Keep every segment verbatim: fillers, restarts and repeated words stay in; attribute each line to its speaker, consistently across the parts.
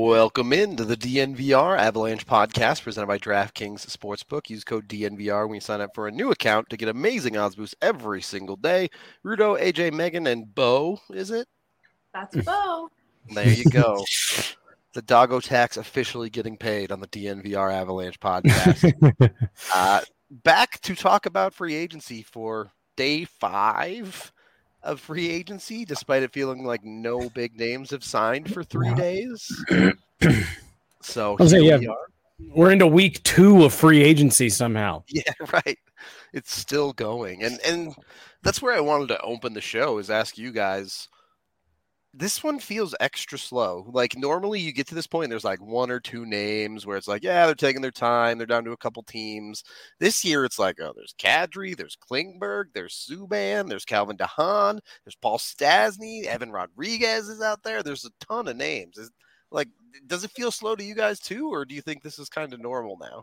Speaker 1: Welcome into the D N V R Avalanche podcast presented by DraftKings Sportsbook. Use code D N V R when you sign up for a new account to get amazing odds boosts every single day. Rudo, A J, Megan, and Bo, is it?
Speaker 2: That's Bo.
Speaker 1: There you go. The doggo tax officially getting paid on the D N V R Avalanche podcast. uh, back to talk about free agency for day five of free agency, despite it feeling like no big names have signed for three days. So here
Speaker 3: say, yeah,
Speaker 1: we are.
Speaker 3: We're into week two of free agency somehow.
Speaker 1: Yeah, right. It's still going. And and that's where I wanted to open the show, is ask you guys, this one feels extra slow. Like normally you get to this point and there's like one or two names where it's like, yeah, they're taking their time. They're down to a couple teams. This year it's like, oh, there's Kadri, there's Klingberg, there's Subban, there's Calvin DeHaan, there's Paul Stastny, Evan Rodriguez is out there. There's a ton of names. Is, like, does it feel slow to you guys too, or do you think this is kind of normal now?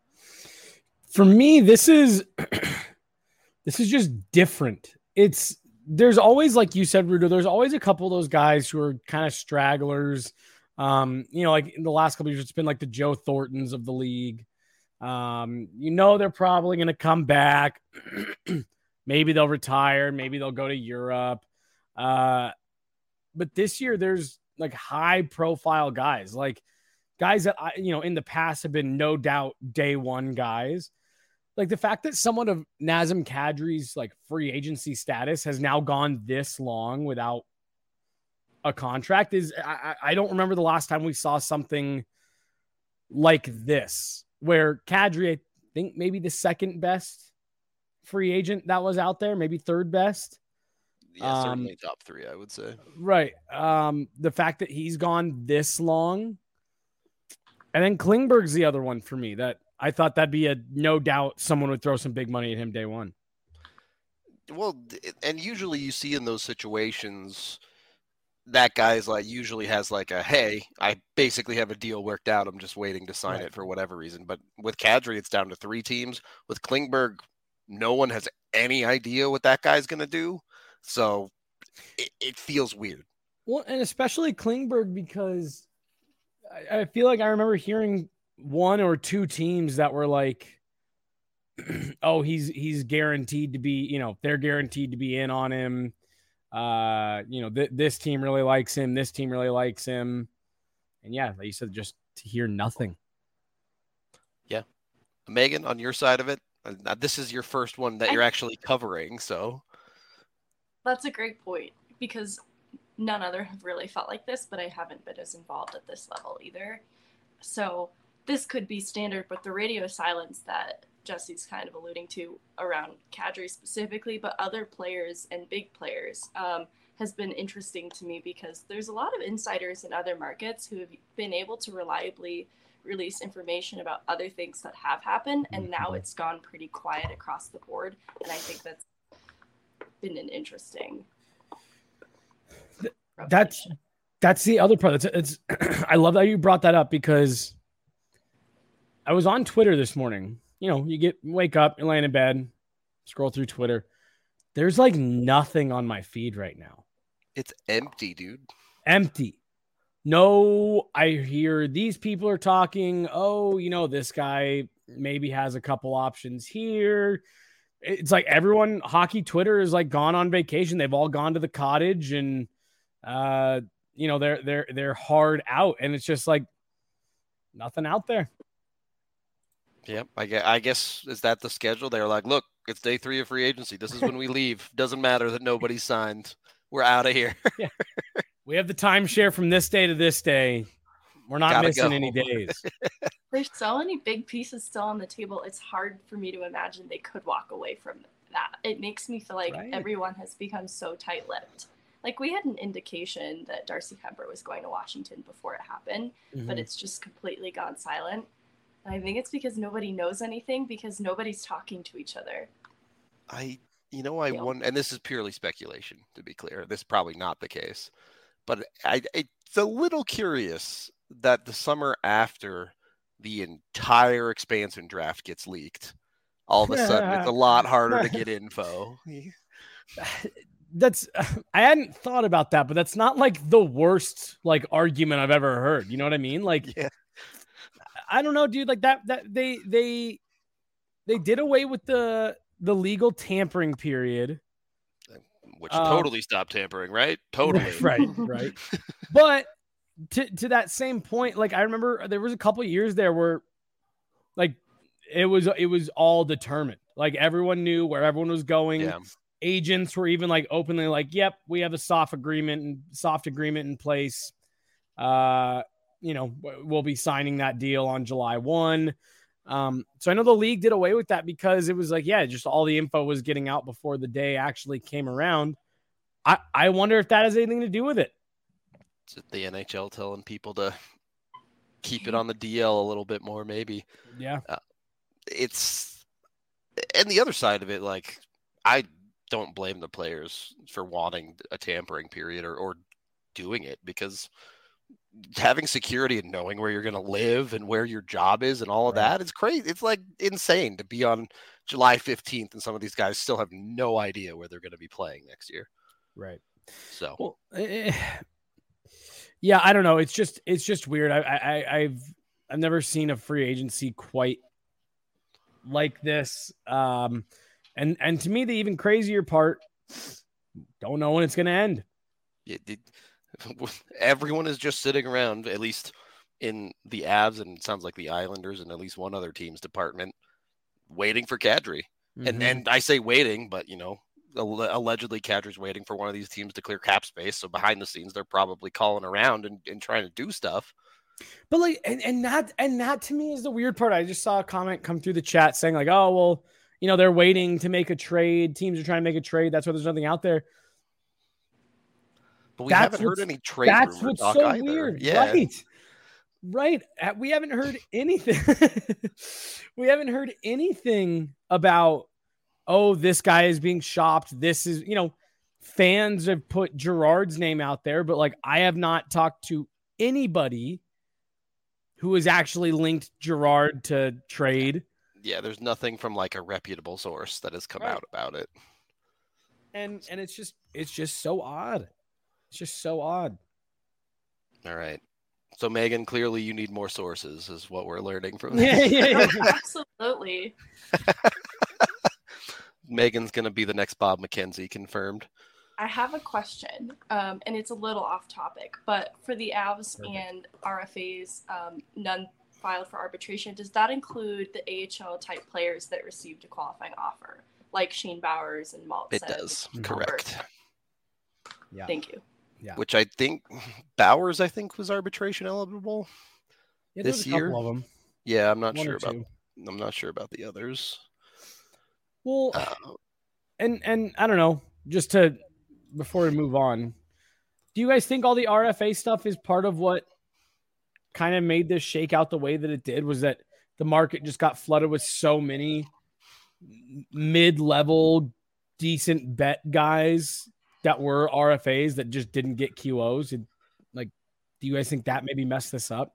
Speaker 3: For me, this is this is just different. It's There's always, like you said, Rudo, there's always a couple of those guys who are kind of stragglers. Um, you know, like in the last couple of years, it's been like the Joe Thorntons of the league. Um, you know, they're probably going to come back. Maybe they'll retire. Maybe they'll go to Europe. Uh, but this year, there's like high profile guys, like guys that, I, you know, in the past have been no doubt day one guys. Like the fact that someone of Nazem Kadri's like free agency status has now gone this long without a contract is I, I don't remember the last time we saw something like this, where Kadri, I think maybe the second best free agent that was out there, maybe third best.
Speaker 1: Yeah, certainly um, top three, I would say.
Speaker 3: Right. Um, the fact that he's gone this long, and then Klingberg's the other one for me that I thought that'd be a no doubt someone would throw some big money at him day one.
Speaker 1: Well, and usually you see in those situations that guy's like usually has like a, hey, I basically have a deal worked out. I'm just waiting to sign right. it for whatever reason. But with Kadri, it's down to three teams. With Klingberg, no one has any idea what that guy's going to do. So it, it feels weird.
Speaker 3: Well, and especially Klingberg, because I, I feel like I remember hearing one or two teams that were like, oh, he's he's guaranteed to be, you know, they're guaranteed to be in on him. Uh, you know, th- this team really likes him. This team really likes him. And yeah, like you said, just to hear nothing.
Speaker 1: Yeah. Megan, on your side of it, uh, this is your first one that you're actually covering. So
Speaker 2: that's a great point, because none other have really felt like this, but I haven't been as involved at this level either. So this could be standard, but the radio silence that Jesse's kind of alluding to around Kadri specifically, but other players and big players um, has been interesting to me, because there's a lot of insiders in other markets who have been able to reliably release information about other things that have happened, and now it's gone pretty quiet across the board, and I think that's been an interesting
Speaker 3: that's that's the other part. It's, it's I love that you brought that up, because I was on Twitter this morning. You know, you get wake up, you're laying in bed, scroll through Twitter. There's like nothing on my feed right now.
Speaker 1: It's empty, dude.
Speaker 3: Empty. No, I hear these people are talking. Oh, you know, this guy maybe has a couple options here. It's like everyone, hockey Twitter is like gone on vacation. They've all gone to the cottage, and uh, you know, they're they're they're hard out, and it's just like nothing out there.
Speaker 1: Yep, I guess, I guess is that the schedule? They're like, look, it's day three of free agency. This is when we leave. Doesn't matter that nobody's signed. We're out of here.
Speaker 3: Yeah. We have the timeshare from this day to this day. We're not
Speaker 1: Gotta
Speaker 3: missing
Speaker 1: go.
Speaker 3: any days.
Speaker 2: There's so many big pieces still on the table. It's hard for me to imagine they could walk away from that. It makes me feel like
Speaker 3: Right.
Speaker 2: everyone has become so tight-lipped. Like, we had an indication that Darcy Kuemper was going to Washington before it happened, mm-hmm. but it's just completely gone silent. And I think it's because nobody knows anything, because nobody's talking to each other.
Speaker 1: I, you know, I
Speaker 2: Yeah.
Speaker 1: won, and this is purely speculation, to be clear. This is probably not the case. But I, it's a little curious that the summer after the entire expansion draft gets leaked, all of a sudden it's a lot harder to get info.
Speaker 3: that's I hadn't thought about that, but that's not like the worst like argument I've ever heard. You know what I mean? Like,
Speaker 1: Yeah.
Speaker 3: I don't know, dude. Like that that they they they did away with the the legal tampering period,
Speaker 1: which
Speaker 3: um,
Speaker 1: totally stopped tampering, right? Totally,
Speaker 3: right, right. But to to that same point, like I remember there was a couple of years there where, like, it was it was all determined. Like everyone knew where everyone was going.
Speaker 1: Yeah.
Speaker 3: Agents were even like openly like, "Yep, we have a soft agreement and soft agreement in place. Uh, you know, we'll be signing that deal on July first." Um, so I know the league did away with that because it was like, yeah, just all the info was getting out before the day actually came around. I, I wonder if that has anything to do with it.
Speaker 1: Is it the N H L telling people to keep it on the D L a little bit more, maybe?
Speaker 3: Yeah.
Speaker 1: Uh, it's, and the other side of it, like, I don't blame the players for wanting a tampering period or, or doing it, because having security and knowing where you're going to live and where your job is and all of
Speaker 3: Right.
Speaker 1: that, it's crazy. It's like insane to be on July fifteenth and some of these guys still have no idea where they're going to be playing next year.
Speaker 3: Right.
Speaker 1: So,
Speaker 3: well, eh, yeah, I don't know. It's just, it's just weird. I, I, I've, I've never seen a free agency quite like this. Um, and, and to me, the even crazier part, don't know when it's going to end.
Speaker 1: It, it, everyone is just sitting around, at least in the Avs, and it sounds like the Islanders and at least one other team's department, waiting for Kadri. Mm-hmm. And and I say waiting, but, you know, allegedly Kadri's waiting for one of these teams to clear cap space. So behind the scenes, they're probably calling around and, and trying to do stuff.
Speaker 3: But like, and, and that, and that to me is the weird part. I just saw a comment come through the chat saying like, oh, well, you know, they're waiting to make a trade. Teams are trying to make a trade. That's why there's nothing out there.
Speaker 1: But we that's haven't heard any trade
Speaker 3: That's what's so
Speaker 1: either.
Speaker 3: weird.
Speaker 1: Yeah.
Speaker 3: Right. Right. We haven't heard anything. We haven't heard anything about, oh, this guy is being shopped. This is, you know, fans have put Gerard's name out there, but like I have not talked to anybody who has actually linked Gerard to trade.
Speaker 1: Yeah, there's nothing from like a reputable source that has come right. out about it.
Speaker 3: And and it's just it's just so odd. It's just so odd.
Speaker 1: All right. So, Megan, clearly you need more sources is what we're learning from
Speaker 3: this. Yeah, yeah,
Speaker 2: yeah. Absolutely.
Speaker 1: Megan's going to be the next Bob McKenzie, confirmed.
Speaker 2: I have a question, um, and it's a little off topic, but for the Avs Perfect. and R F As, um, none filed for arbitration, does that include the A H L type players that received a qualifying offer, like Shane Bowers and Maltz?
Speaker 1: It does,
Speaker 2: and
Speaker 1: correct.
Speaker 3: Yeah.
Speaker 2: Thank you.
Speaker 3: Yeah.
Speaker 1: Which I think Bowers, I think, was arbitration eligible
Speaker 3: yeah,
Speaker 1: this
Speaker 3: a
Speaker 1: year.
Speaker 3: Of them.
Speaker 1: Yeah, I'm not
Speaker 3: One
Speaker 1: sure about. I'm not sure about the others.
Speaker 3: Well, uh, and and I don't know. Just to before we move on, do you guys think all the R F A stuff is part of what kind of made this shake out the way that it did? Was that the market just got flooded with so many mid-level, decent bet guys that were R F As that just didn't get Q Os? And, like, do you guys think that maybe messed this up?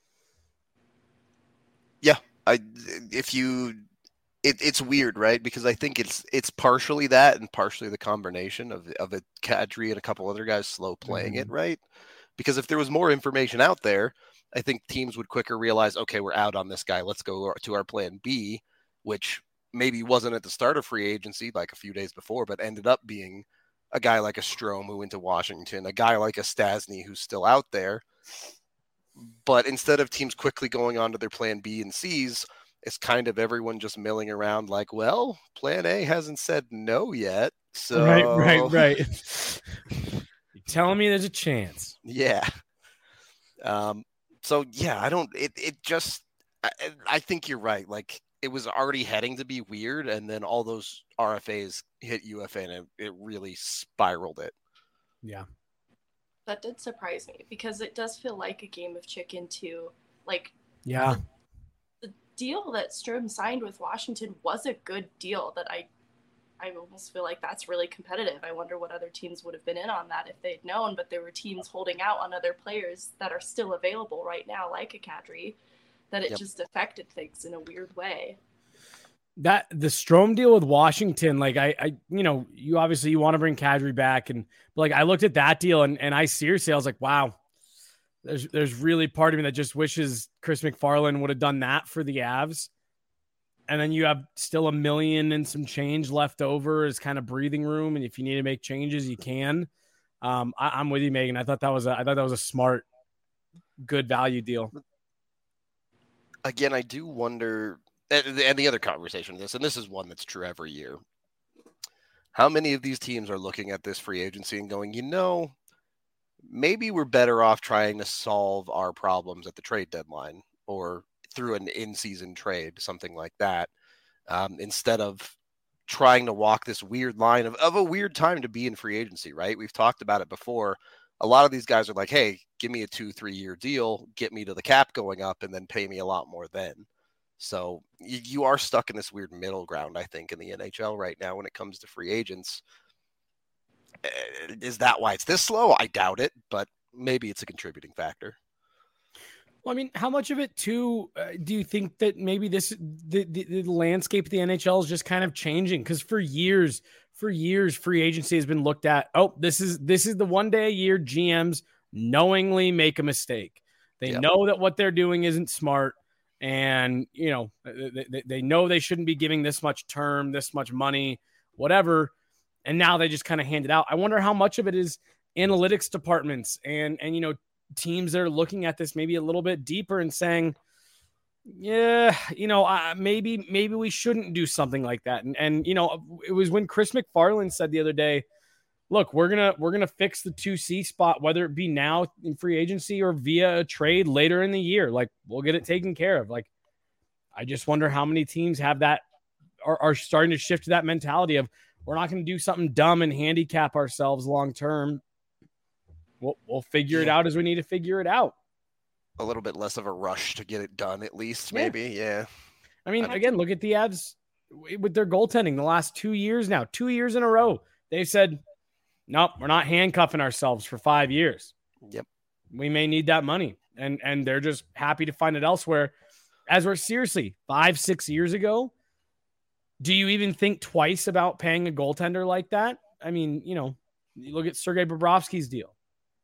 Speaker 1: Yeah, I if you, it, it's weird, right? Because I think it's it's partially that and partially the combination of of a Kadri and a couple other guys slow playing mm-hmm. it, right? Because if there was more information out there, I think teams would quicker realize, okay, we're out on this guy. Let's go to our plan B, which maybe wasn't at the start of free agency, like a few days before, but ended up being a guy like a Strome who went to Washington, a guy like a Stasny who's still out there. But instead of teams quickly going on to their plan B and C's, it's kind of everyone just milling around like, well, plan A hasn't said no yet. So
Speaker 3: right, right, right. You're telling me there's a chance.
Speaker 1: Yeah. Um, so yeah, I don't, it, it just, I, I think you're right. Like it was already heading to be weird. And then all those R F As hit U F A and it, it really spiraled it.
Speaker 3: Yeah.
Speaker 2: That did surprise me because it does feel like a game of chicken too. Like,
Speaker 3: yeah,
Speaker 2: the, the deal that Strome signed with Washington was a good deal that I, I almost feel like that's really competitive. I wonder what other teams would have been in on that if they'd known, but there were teams holding out on other players that are still available right now, like a Kadri, that it yep. just affected things in a weird way.
Speaker 3: That the Strome deal with Washington, like I, I, you know, you obviously you want to bring Kadri back, and but like I looked at that deal and and I seriously I was like, wow, there's there's really part of me that just wishes Chris McFarland would have done that for the Avs, and then you have still a million and some change left over as kind of breathing room, and if you need to make changes, you can. Um, I, I'm with you, Megan. I thought that was a, I thought that was a smart, good value deal.
Speaker 1: Again, I do wonder. And the other conversation of this, and this is one that's true every year. How many of these teams are looking at this free agency and going, you know, maybe we're better off trying to solve our problems at the trade deadline or through an in-season trade, something like that, um, instead of trying to walk this weird line of, of a weird time to be in free agency, right? We've talked about it before. A lot of these guys are like, hey, give me a two, three-year deal, get me to the cap going up, and then pay me a lot more then. So you, you are stuck in this weird middle ground, I think, in the N H L right now when it comes to free agents. Is that why it's this slow? I doubt it, but maybe it's a contributing factor.
Speaker 3: Well, I mean, how much of it, too, uh, do you think that maybe this the, the, the landscape of the N H L is just kind of changing? Because for years, for years, free agency has been looked at, oh, this is this is the one day a year G Ms knowingly make a mistake. They yep. know that what they're doing isn't smart. And, you know, they, they know they shouldn't be giving this much term, this much money, whatever. And now they just kind of hand it out. I wonder how much of it is analytics departments and, and, you know, teams that are looking at this maybe a little bit deeper and saying, yeah, you know, uh, maybe, maybe we shouldn't do something like that. And, and, you know, it was when Chris McFarland said the other day, look, we're going to, we're going to fix the two C spot, whether it be now in free agency or via a trade later in the year. Like, we'll get it taken care of. Like, I just wonder how many teams have that are, are starting to shift to that mentality of we're not going to do something dumb and handicap ourselves long-term. We'll, we'll figure yeah. it out as we need to figure it out.
Speaker 1: A little bit less of a rush to get it done, at least,
Speaker 3: yeah.
Speaker 1: maybe. Yeah.
Speaker 3: I mean, I again, look at the Avs with their goaltending the last two years now, two years in a row. They've said, nope, we're not handcuffing ourselves for five years.
Speaker 1: Yep.
Speaker 3: We may need that money. And and they're just happy to find it elsewhere. As we're seriously five, six years ago, do you even think twice about paying a goaltender like that? I mean, you know, you look at Sergei Bobrovsky's deal.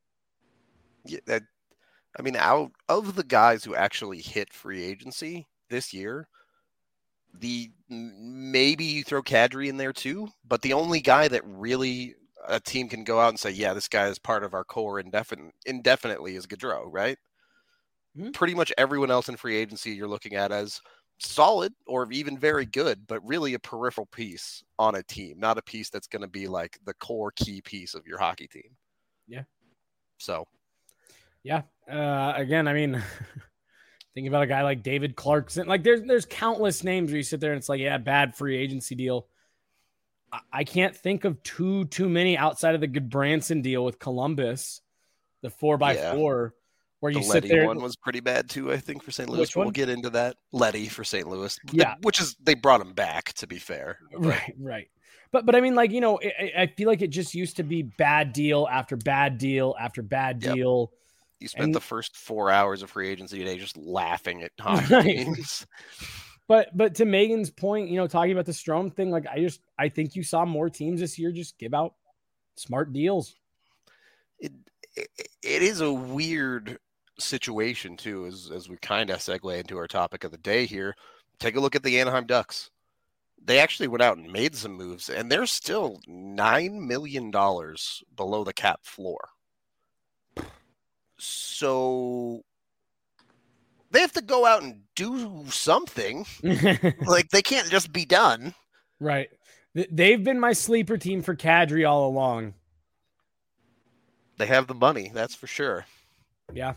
Speaker 1: Yeah, that, I mean, out of the guys who actually hit free agency this year, the maybe you throw Kadri in there too, but the only guy that really a team can go out and say, yeah, this guy is part of our core indefinite, indefinitely is Gaudreau, right? Mm-hmm. Pretty much everyone else in free agency you're looking at as solid or even very good, but really a peripheral piece on a team, not a piece that's going to be like the core key piece of your hockey team.
Speaker 3: Yeah.
Speaker 1: So.
Speaker 3: Yeah. Uh, again, I mean, think about a guy like David Clarkson. Like there's, there's countless names where you sit there and it's like, yeah, bad free agency deal. I can't think of too, too many outside of the Goodbranson deal with Columbus, the four by yeah. four, where you
Speaker 1: the
Speaker 3: sit
Speaker 1: Letty
Speaker 3: there.
Speaker 1: One was pretty bad too, I think, for Saint Louis.
Speaker 3: Which one?
Speaker 1: We'll get into that. Letty for Saint Louis.
Speaker 3: Yeah.
Speaker 1: Which is, they brought him back, to be fair.
Speaker 3: Right, right. But, but I mean, like, you know, I, I feel like it just used to be bad deal after bad deal after bad
Speaker 1: yep.
Speaker 3: deal.
Speaker 1: You spent and, the first four hours of free agency today just laughing at hockey
Speaker 3: right.
Speaker 1: teams.
Speaker 3: But but to Megan's point, you know, talking about the Strome thing, like I just I think you saw more teams this year just give out smart deals.
Speaker 1: It it, it is a weird situation too, as as we kind of segue into our topic of the day here. Take a look at the Anaheim Ducks. They actually went out and made some moves, and they're still nine million dollars below the cap floor. So they have to go out and do something. Like, they can't just be done.
Speaker 3: Right. They've been my sleeper team for Kadri all along.
Speaker 1: They have the money, that's for sure.
Speaker 3: Yeah.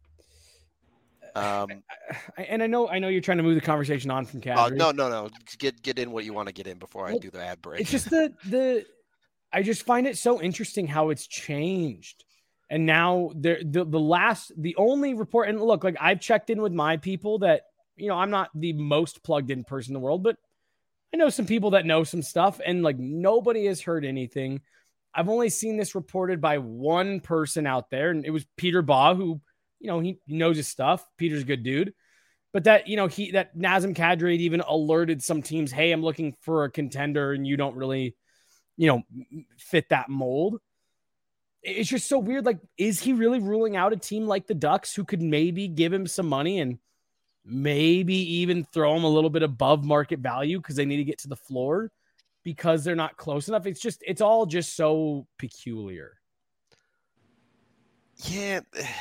Speaker 1: Um,
Speaker 3: and I know I know you're trying to move the conversation on from Kadri.
Speaker 1: Uh, no, no, no. Get get in what you want to get in before well, I do the ad break.
Speaker 3: It's just the the. I just find it so interesting how it's changed. And now the, the the last, the only report, and look, like I've checked in with my people that, you know, I'm not the most plugged in person in the world, but I know some people that know some stuff, and like nobody has heard anything. I've only seen this reported by one person out there, and it was Peter Baugh, who, you know, he knows his stuff. Peter's a good dude. but that, you know, he, that Nazem Kadri had even alerted some teams, hey, I'm looking for a contender and you don't really, you know, fit that mold. It's just so weird. Like, is he really ruling out a team like the Ducks who could maybe give him some money and maybe even throw him a little bit above market value because they need to get to the floor because they're not close enough? It's just, it's all just so peculiar.
Speaker 1: Yeah.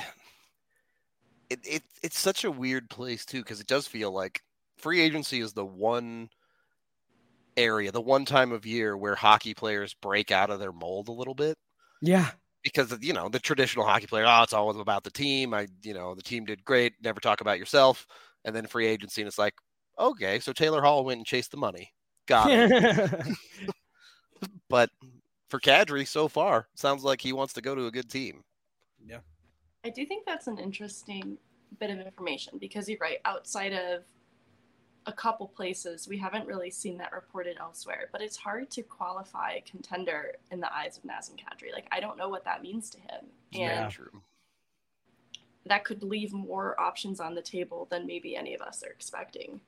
Speaker 1: It, it it's such a weird place too, because it does feel like free agency is the one area, the one time of year where hockey players break out of their mold a little bit.
Speaker 3: Yeah.
Speaker 1: Because, you know, the traditional hockey player, oh, it's always about the team. I, you know, the team did great. Never talk about yourself. And then free agency, and it's like, okay, so Taylor Hall went and chased the money. Got it. But for Kadri, so far, sounds like he wants to go to a good team.
Speaker 3: Yeah.
Speaker 2: I do think that's an interesting bit of information because you're right. Outside of a couple places, we haven't really seen that reported elsewhere. But it's hard to qualify a contender in the eyes of Nazem Kadri. Like, I don't know what that means to him. And
Speaker 3: Yeah.
Speaker 1: True.
Speaker 2: that could leave more options on the table than maybe any of us are expecting.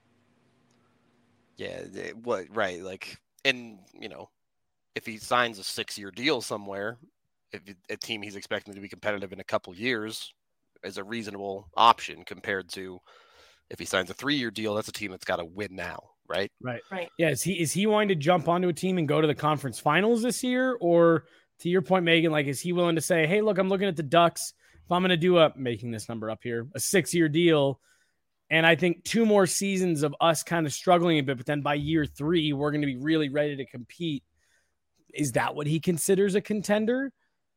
Speaker 1: Yeah, what right? Like, and you know, if he signs a six-year deal somewhere, if a team he's expecting to be competitive in a couple years is a reasonable option compared to if he signs a three-year deal, that's a team that's got to win now, right?
Speaker 3: Right.
Speaker 2: Right.
Speaker 3: Yeah. Is he, is he wanting to jump onto a team and go to the conference finals this year? Or to your point, Megan, like, is he willing to say, hey, look, I'm looking at the Ducks. If I'm going to do a, making this number up here, a six-year deal, and I think two more seasons of us kind of struggling a bit, but then by year three, we're going to be really ready to compete. Is that what he considers a contender?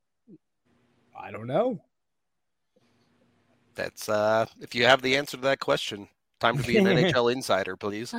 Speaker 3: I don't know.
Speaker 1: That's uh, if you have the answer to that question, time to be an N H L insider, please.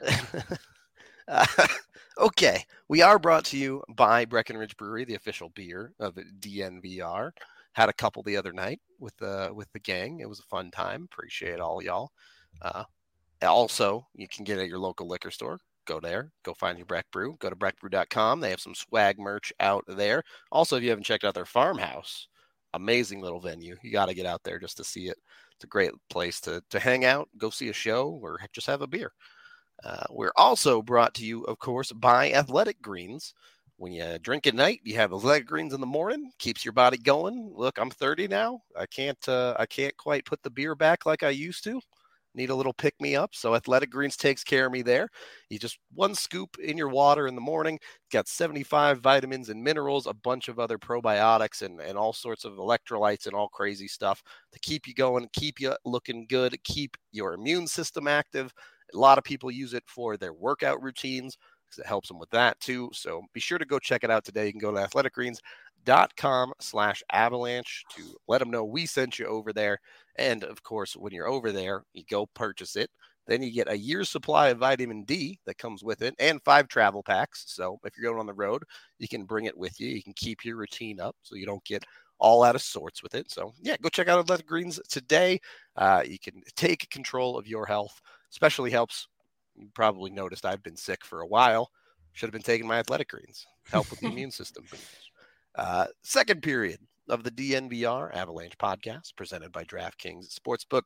Speaker 1: uh, okay, we are brought to you by Breckenridge Brewery, the official beer of D N V R. Had a couple the other night with the with the gang. It was a fun time. Appreciate all y'all. Uh, also, you can get it at your local liquor store. Go there. Go find your Breck Brew. Go to breck brew dot com. They have some swag merch out there. Also, if you haven't checked out their farmhouse, amazing little venue. You got to get out there just to see it. It's a great place to to hang out, go see a show, or just have a beer. Uh, we're also brought to you, of course, by Athletic Greens. When you drink at night, you have Athletic Greens in the morning. Keeps your body going. Look, I'm thirty now. I can't uh, I can't quite put the beer back like I used to. Need a little pick me up. So Athletic Greens takes care of me there. You just one scoop in your water in the morning. Got seventy-five vitamins and minerals, a bunch of other probiotics and, and all sorts of electrolytes and all crazy stuff to keep you going, keep you looking good, keep your immune system active. A lot of people use it for their workout routines because it helps them with that too. So be sure to go check it out today. You can go to athletic greens dot com slash avalanche to let them know we sent you over there. And of course, when you're over there, you go purchase it. Then you get a year's supply of vitamin D that comes with it and five travel packs. So if you're going on the road, you can bring it with you. You can keep your routine up so you don't get all out of sorts with it. So yeah, go check out Athletic Greens today. Uh, you can take control of your health. Especially helps. You probably noticed I've been sick for a while. Should have been taking my Athletic Greens. Help with the immune system. Uh, second period of the D N V R Avalanche podcast presented by DraftKings Sportsbook.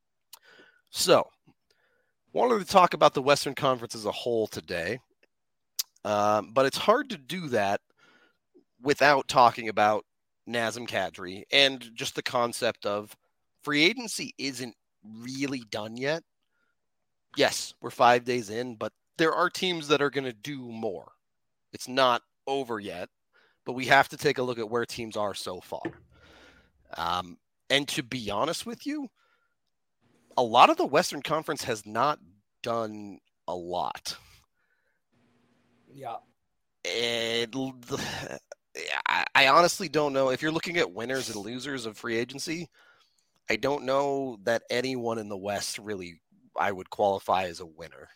Speaker 1: So, wanted to talk about the Western Conference as a whole today, um, but it's hard to do that without talking about Nazem Kadri and just the concept of free agency isn't really done yet. Yes, we're five days in, but there are teams that are going to do more. It's not over yet, but we have to take a look at where teams are so far. Um, and to be honest with you, a lot of the Western Conference has not done a lot.
Speaker 3: Yeah.
Speaker 1: And I, I honestly don't know. If you're looking at winners and losers of free agency, I don't know that anyone in the West really I would qualify as a winner.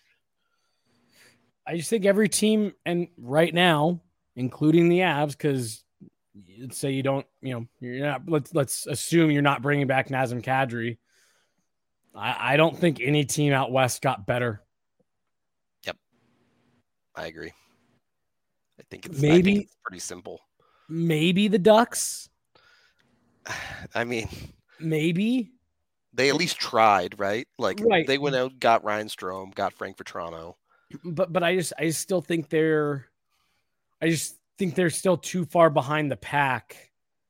Speaker 3: I just think every team, and right now, including the Avs, because let's say you don't, you know, you're not. Let's let's assume you're not bringing back Nazem Kadri. I, I don't think any team out west got better.
Speaker 1: Yep, I agree. I think it's
Speaker 3: maybe
Speaker 1: I think it's pretty simple.
Speaker 3: Maybe the Ducks.
Speaker 1: I mean,
Speaker 3: maybe.
Speaker 1: They at least tried, right? Like
Speaker 3: Right.
Speaker 1: they went out, got Ryan Strome, got Frank Vetrano.
Speaker 3: But but I just I still think they're I just think they're still too far behind the pack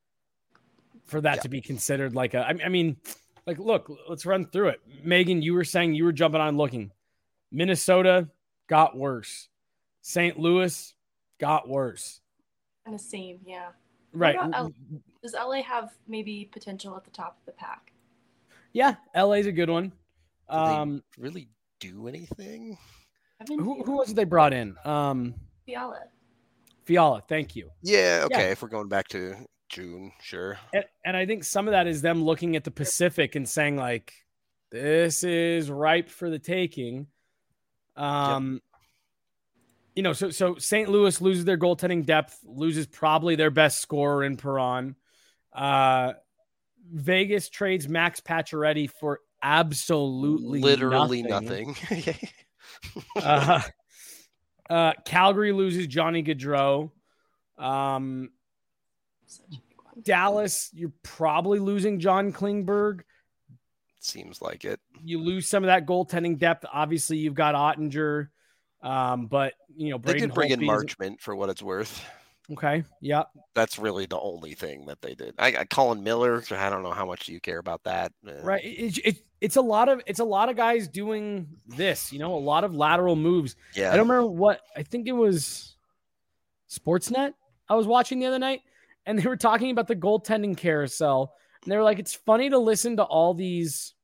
Speaker 3: for that
Speaker 1: Yeah.
Speaker 3: to be considered like a I, I mean, like look, let's run through it. Megan, you were saying you were jumping on looking. Minnesota got worse. Saint Louis got worse.
Speaker 2: And the same, yeah.
Speaker 3: Right.
Speaker 2: What about L- Does L A have maybe potential at the top of the pack?
Speaker 3: Yeah, L A's a good one.
Speaker 1: Did
Speaker 3: Um,
Speaker 1: they really do anything?
Speaker 2: Evan
Speaker 3: who,
Speaker 2: Fiala.
Speaker 3: who was it they brought in? Um,
Speaker 2: Fiala.
Speaker 3: Fiala, thank you.
Speaker 1: Yeah, okay.
Speaker 3: Yeah.
Speaker 1: If we're going back to June, sure.
Speaker 3: And, and I think some of that is them looking at the Pacific and saying, like, this is ripe for the taking. Um, you know, so so Saint Louis loses their goaltending depth, loses probably their best scorer in Perron. Uh, Vegas trades Max Pacioretty for absolutely
Speaker 1: Literally
Speaker 3: nothing.
Speaker 1: nothing.
Speaker 3: uh, uh, Calgary loses Johnny Gaudreau. Um,
Speaker 2: Such a big one.
Speaker 3: Dallas, you're probably losing John Klingberg.
Speaker 1: Seems like it.
Speaker 3: You lose some of that goaltending depth. Obviously, you've got Ottinger, um, but you know
Speaker 1: They
Speaker 3: Braden
Speaker 1: did bring in
Speaker 3: Holtby is-
Speaker 1: Marchment for what it's worth.
Speaker 3: Okay, yeah,
Speaker 1: That's really the only thing that they did. I, I Colin Miller. I don't know how much you care about that. Uh,
Speaker 3: right. It, it, it's a lot of it's a lot of guys doing this. You know, a lot of lateral moves.
Speaker 1: Yeah.
Speaker 3: I don't remember what I think it was. Sportsnet. I was watching the other night, and they were talking about the goaltending carousel, and they were like, "It's funny to listen to all these,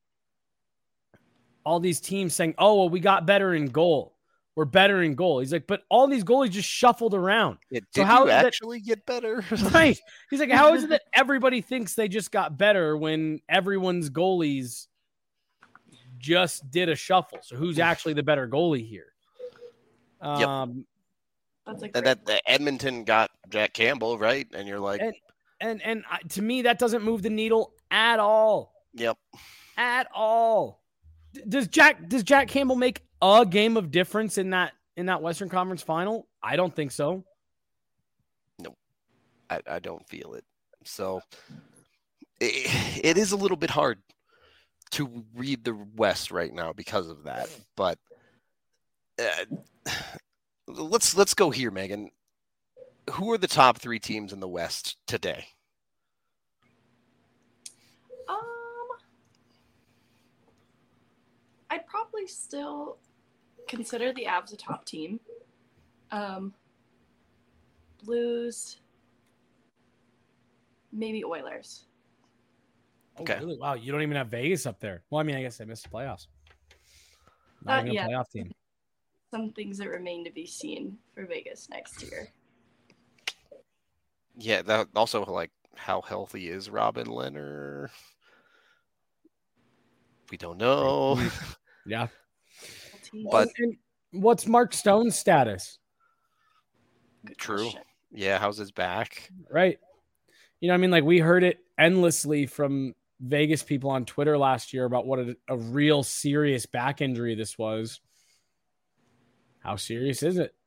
Speaker 3: all these teams saying, oh, well, we got better in goal. We're better in goal." He's like, "But all these goalies just shuffled around."
Speaker 1: Yeah,
Speaker 3: So
Speaker 1: did
Speaker 3: how
Speaker 1: you
Speaker 3: is that-
Speaker 1: actually get better?
Speaker 3: Right. He's like, "How is it that everybody thinks they just got better when everyone's goalies just did a shuffle? So who's actually the better goalie here?"
Speaker 1: Yep.
Speaker 3: Um,
Speaker 2: That's a
Speaker 1: And
Speaker 2: great
Speaker 1: that the Edmonton got Jack Campbell, right? And you're like,
Speaker 3: And- and and I, to me, that doesn't move the needle at all.
Speaker 1: yep.
Speaker 3: At all. D- Does Jack does Jack Campbell make a game of difference in that in that Western Conference final? I don't think so.
Speaker 1: I, I don't feel it. So it, it is a little bit hard to read the West right now because of that. But uh, let's let's go here, Megan. Who are the top three teams in the West today?
Speaker 2: Um, I'd probably still consider the Avs a top team. Um, Blues, maybe Oilers.
Speaker 3: Oh,
Speaker 1: Okay.
Speaker 3: really? Wow, you don't even have Vegas up there. Well, I mean, I guess I missed the playoffs. Not
Speaker 2: Uh,
Speaker 3: even a
Speaker 2: yeah.
Speaker 3: playoff team.
Speaker 2: Some things that remain to be seen for Vegas next year.
Speaker 1: Yeah, that also like how healthy is Robin Leonard? We don't know.
Speaker 3: Yeah.
Speaker 1: But-
Speaker 3: And what's Mark Stone's status?
Speaker 2: Good
Speaker 1: True.
Speaker 2: question.
Speaker 1: Yeah, how's his back?
Speaker 3: Right. You know, what I mean, like we heard it endlessly from Vegas people on Twitter last year about what a, a real serious back injury this was. How serious is it?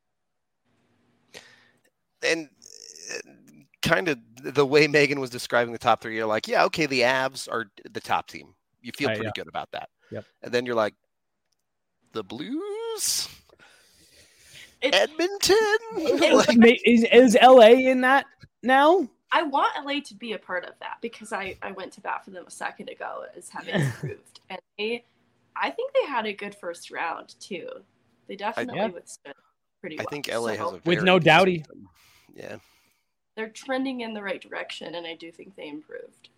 Speaker 1: And uh, kind of the way Megan was describing the top three, you're like, yeah, okay, the Avs are the top team. You feel
Speaker 3: Right,
Speaker 1: pretty
Speaker 3: yeah.
Speaker 1: good about that.
Speaker 3: Yep.
Speaker 1: And then you're like, the Blues?
Speaker 2: It,
Speaker 1: Edmonton?
Speaker 3: Like,
Speaker 1: Like,
Speaker 3: ma- is, is L A in that now?
Speaker 2: I want L A to be a part of that because I, I went to bat for them a second ago as having improved. And they, I think they had a good first round too. They definitely
Speaker 3: yeah.
Speaker 2: withstood pretty
Speaker 1: I
Speaker 2: well.
Speaker 1: think L A has
Speaker 2: So
Speaker 1: a
Speaker 3: With
Speaker 1: very
Speaker 3: no
Speaker 1: good
Speaker 3: Doughty.
Speaker 1: system. Yeah.
Speaker 2: they're trending in the right direction, and I do think they improved.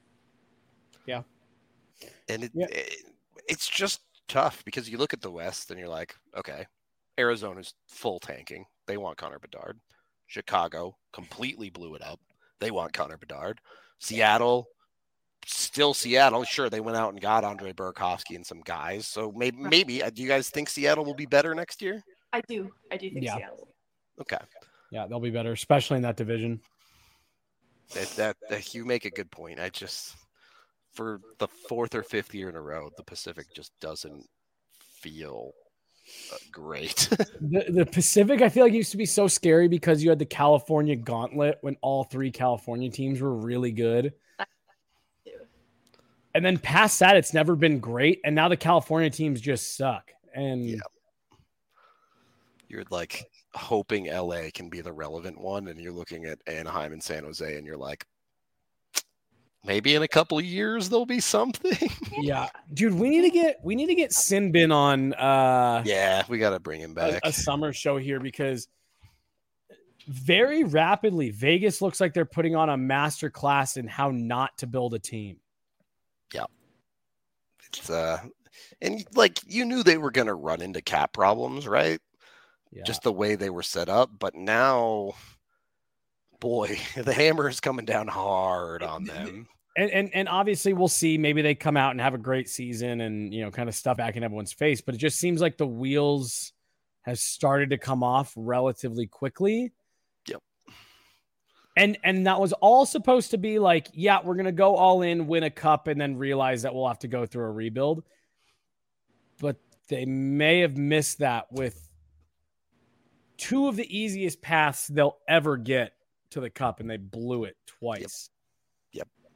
Speaker 1: And it,
Speaker 3: Yeah.
Speaker 1: it it's just tough because you look at the West and you're like, okay, Arizona's full tanking. They want Connor Bedard. Chicago completely blew it up. They want Connor Bedard. Seattle, still Seattle. Sure, they went out and got Andre Burakovsky and some guys. So maybe, maybe uh, do you guys think Seattle will be better next year?
Speaker 2: I do. I do think
Speaker 3: Yeah.
Speaker 2: Seattle.
Speaker 1: Okay,
Speaker 3: Yeah, they'll be better, especially in that division.
Speaker 1: that, that, that you make a good point. I just for the fourth or fifth year in a row, the Pacific just doesn't feel uh, great.
Speaker 3: The, the Pacific, I feel like used to be so scary because you had the California gauntlet when all three California teams were really good.
Speaker 2: Too.
Speaker 3: And then past that, it's never been great. And now the California teams just suck. And
Speaker 1: yeah. You're like hoping L A can be the relevant one, and you're looking at Anaheim and San Jose, and you're like, maybe in a couple of years there'll be something.
Speaker 3: Yeah, dude, we need to get we need to get Sinbin on. Uh,
Speaker 1: yeah, we got to bring him back.
Speaker 3: A, a summer show here because very rapidly Vegas looks like they're putting on a master class in how not to build a team.
Speaker 1: Yeah, it's uh, and like you knew they were going to run into cap problems, right? Yeah. Just the way they were set up, but now, boy, the hammer is coming down hard on them.
Speaker 3: And, and and obviously we'll see. Maybe they come out and have a great season and, you know, kind of stuff back in everyone's face. But it just seems like the wheels has started to come off relatively quickly.
Speaker 1: Yep.
Speaker 3: And and that was all supposed to be like, yeah, we're gonna go all in, win a cup, and then realize that we'll have to go through a rebuild. But they may have missed that with two of the easiest paths they'll ever get to the cup, and they blew it twice.
Speaker 1: Yep. yep.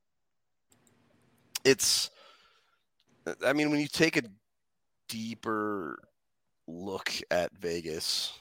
Speaker 1: It's, I mean, when you take a deeper look at Vegas,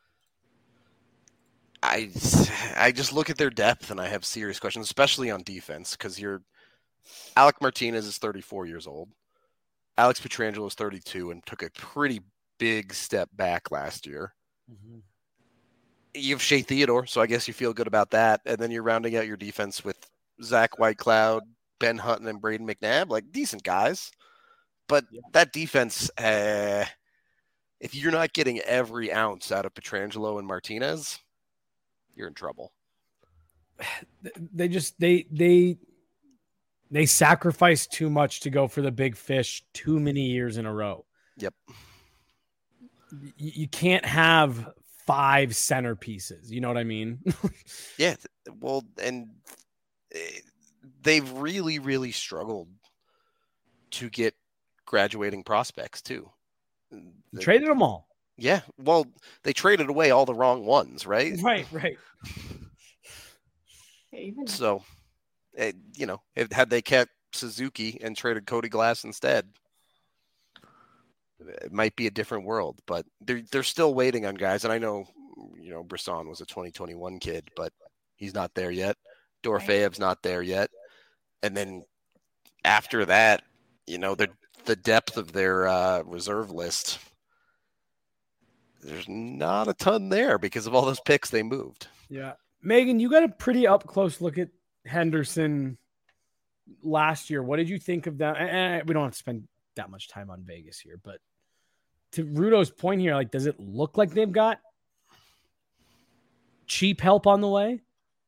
Speaker 1: I, I just look at their depth and I have serious questions, especially on defense, because you're Alec Martinez is thirty-four years old. Alex Pietrangelo is thirty-two and took a pretty big step back last year. Mm-hmm. You have Shea Theodore, so I guess you feel good about that. And then you're rounding out your defense with Zach Whitecloud, Ben Hutton, and Braden McNabb, like decent guys. But yeah. that defense, uh, if you're not getting every ounce out of Pietrangelo and Martinez, you're in trouble.
Speaker 3: They just they they they sacrifice too much to go for the big fish too many years in a row.
Speaker 1: Yep.
Speaker 3: You can't have five centerpieces. You know what I mean?
Speaker 1: Yeah. Well, and they've really, really struggled to get graduating prospects too.
Speaker 3: They traded them all.
Speaker 1: Yeah. Well, they traded away all the wrong ones, right?
Speaker 3: Right, right.
Speaker 1: So, you know, if, had they kept Suzuki and traded Cody Glass instead, it might be a different world, but they're they're still waiting on guys. And I know, you know, Brisson was a twenty twenty-one kid, but he's not there yet. Dorofeyev's not there yet. And then after that, you know, the the depth of their uh, reserve list, there's not a ton there because of all those picks they moved.
Speaker 3: Yeah. Megan, you got a pretty up close look at Henderson last year. What did you think of that? And we don't have to spend that much time on Vegas here, but to Rudo's point here, like, does it look like they've got cheap help on the way?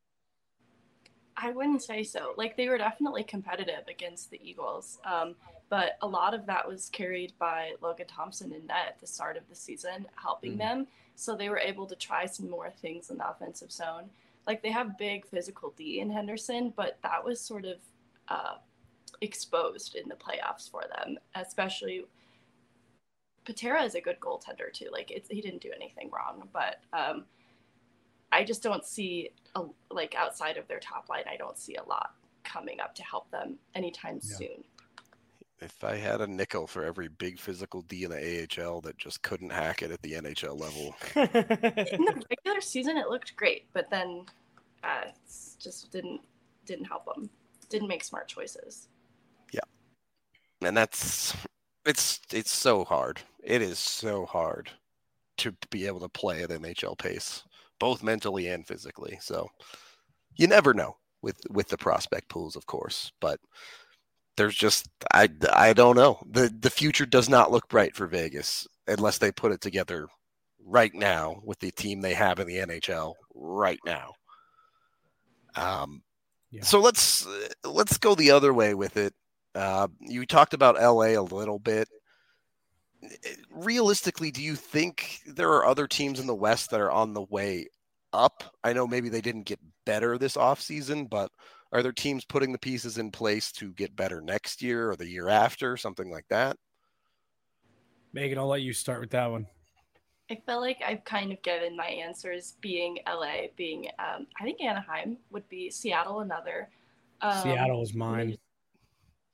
Speaker 2: I wouldn't say so. Like, they were definitely competitive against the Eagles, um, but a lot of that was carried by Logan Thompson and net at the start of the season, helping mm. them. So they were able to try some more things in the offensive zone. Like, they have big physical D in Henderson, but that was sort of uh, exposed in the playoffs for them, especially Patera is a good goaltender too. Like, it's, he didn't do anything wrong, but um, I just don't see a, like outside of their top line, I don't see a lot coming up to help them anytime yeah. soon.
Speaker 1: If I had a nickel for every big physical D in the A H L that just couldn't hack it at the N H L level.
Speaker 2: In the regular season, it looked great, but then uh, it just didn't didn't help them. Didn't make smart choices.
Speaker 1: Yeah, and that's it's it's so hard. It is so hard to be able to play at N H L pace, both mentally and physically. So you never know with with the prospect pools, of course, but. There's just I, I don't know. The the future does not look bright for Vegas unless they put it together right now with the team they have in the N H L right now. Um, yeah. So let's let's go the other way with it. Uh, you talked about L A a little bit. Realistically, do you think there are other teams in the West that are on the way up? I know maybe they didn't get better this offseason, but are there teams putting the pieces in place to get better next year or the year after, something like that?
Speaker 3: Megan, I'll let you start with that one.
Speaker 2: I feel like I've kind of given my answers, being L A, being, um, I think Anaheim would be, Seattle another.
Speaker 3: Um, Seattle is mine.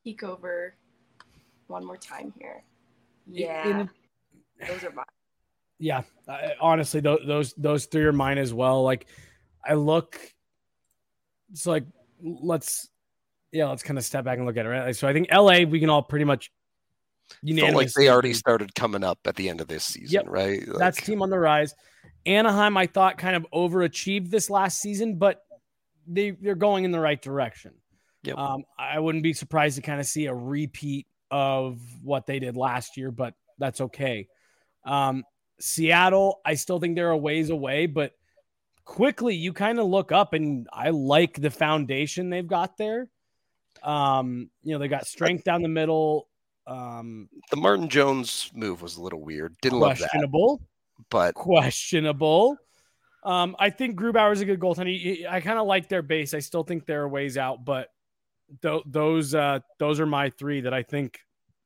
Speaker 2: peek over one more time here. Yeah,
Speaker 3: In,
Speaker 2: those are mine.
Speaker 3: Yeah, I, honestly, those, those those three are mine as well. Like, I look, it's like let's yeah, let's kind of step back and look at it. Right, so I think L A we can all pretty much unanimously.
Speaker 1: Felt like they already started coming up at the end of this season,
Speaker 3: yep.
Speaker 1: right? Like,
Speaker 3: that's team on the rise. Anaheim, I thought, kind of overachieved this last season, but they they're going in the right direction.
Speaker 1: Yep.
Speaker 3: Um, I wouldn't be surprised to kind of see a repeat of what they did last year, but that's okay. Um, Seattle, I still think they're a ways away, but quickly you kind of look up and I like the foundation they've got there. Um, you know, they got strength down the middle. Um,
Speaker 1: the Martin Jones move was a little weird. Didn't love that.
Speaker 3: Questionable,
Speaker 1: but
Speaker 3: questionable. Um, I think Grubauer is a good goaltender. I kind of like their base. I still think they're a ways out, but th- those uh, those are my three that I think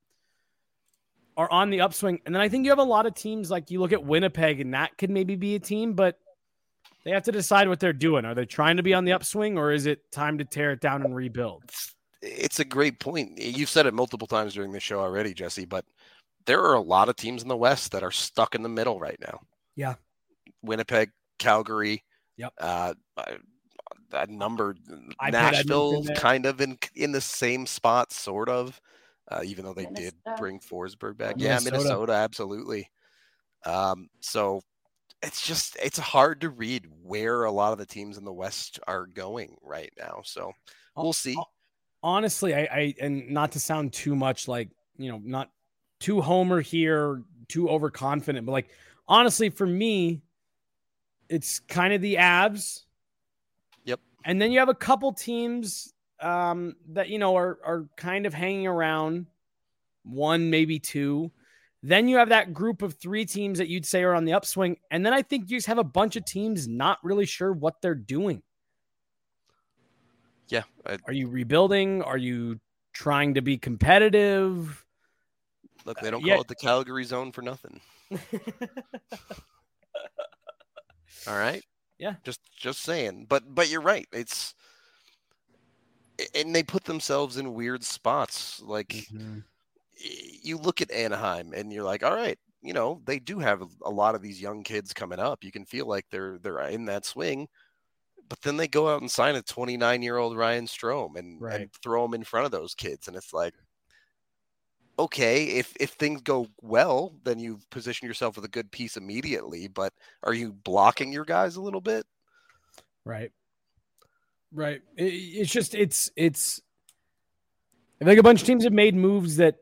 Speaker 3: are on the upswing. And then I think you have a lot of teams, like you look at Winnipeg, and that could maybe be a team, but they have to decide what they're doing. Are they trying to be on the upswing, or is it time to tear it down and rebuild?
Speaker 1: It's a great point. You've said it multiple times during the show already, Jesse, but there are a lot of teams in the West that are stuck in the middle right now.
Speaker 3: Yeah.
Speaker 1: Winnipeg, Calgary.
Speaker 3: Yep.
Speaker 1: Uh, a number,
Speaker 3: I
Speaker 1: Nashville kind of in in the same spot, sort of. Uh, even though they Minnesota. did bring Forsberg back. Minnesota. Yeah, Minnesota, absolutely. Um, so it's just, it's hard to read where a lot of the teams in the West are going right now. So we'll see.
Speaker 3: Honestly, I, I and not to sound too much like, you know, not too homer here, too overconfident, but like, honestly, for me, it's kind of the Avs.
Speaker 1: Yep.
Speaker 3: And then you have a couple teams Um, that, you know, are, are kind of hanging around, one, maybe two. Then you have that group of three teams that you'd say are on the upswing. And then I think you just have a bunch of teams not really sure what they're doing.
Speaker 1: Yeah. I,
Speaker 3: are you rebuilding? Are you trying to be competitive?
Speaker 1: Look, they don't
Speaker 3: uh, yeah.
Speaker 1: call it the Calgary zone for nothing. All right.
Speaker 3: Yeah.
Speaker 1: Just, just saying, but, but you're right. It's, and they put themselves in weird spots. Like mm-hmm. you look at Anaheim and you're like, all right, you know, they do have a lot of these young kids coming up. You can feel like they're, they're in that swing, but then they go out and sign a twenty-nine year old Ryan Strome and,
Speaker 3: right.
Speaker 1: and throw him in front of those kids. And it's like, okay, if, if things go well, then you've positioned yourself with a good piece immediately, but are you blocking your guys a little bit?
Speaker 3: Right. Right. It, it's just, it's, it's, I think a bunch of teams have made moves that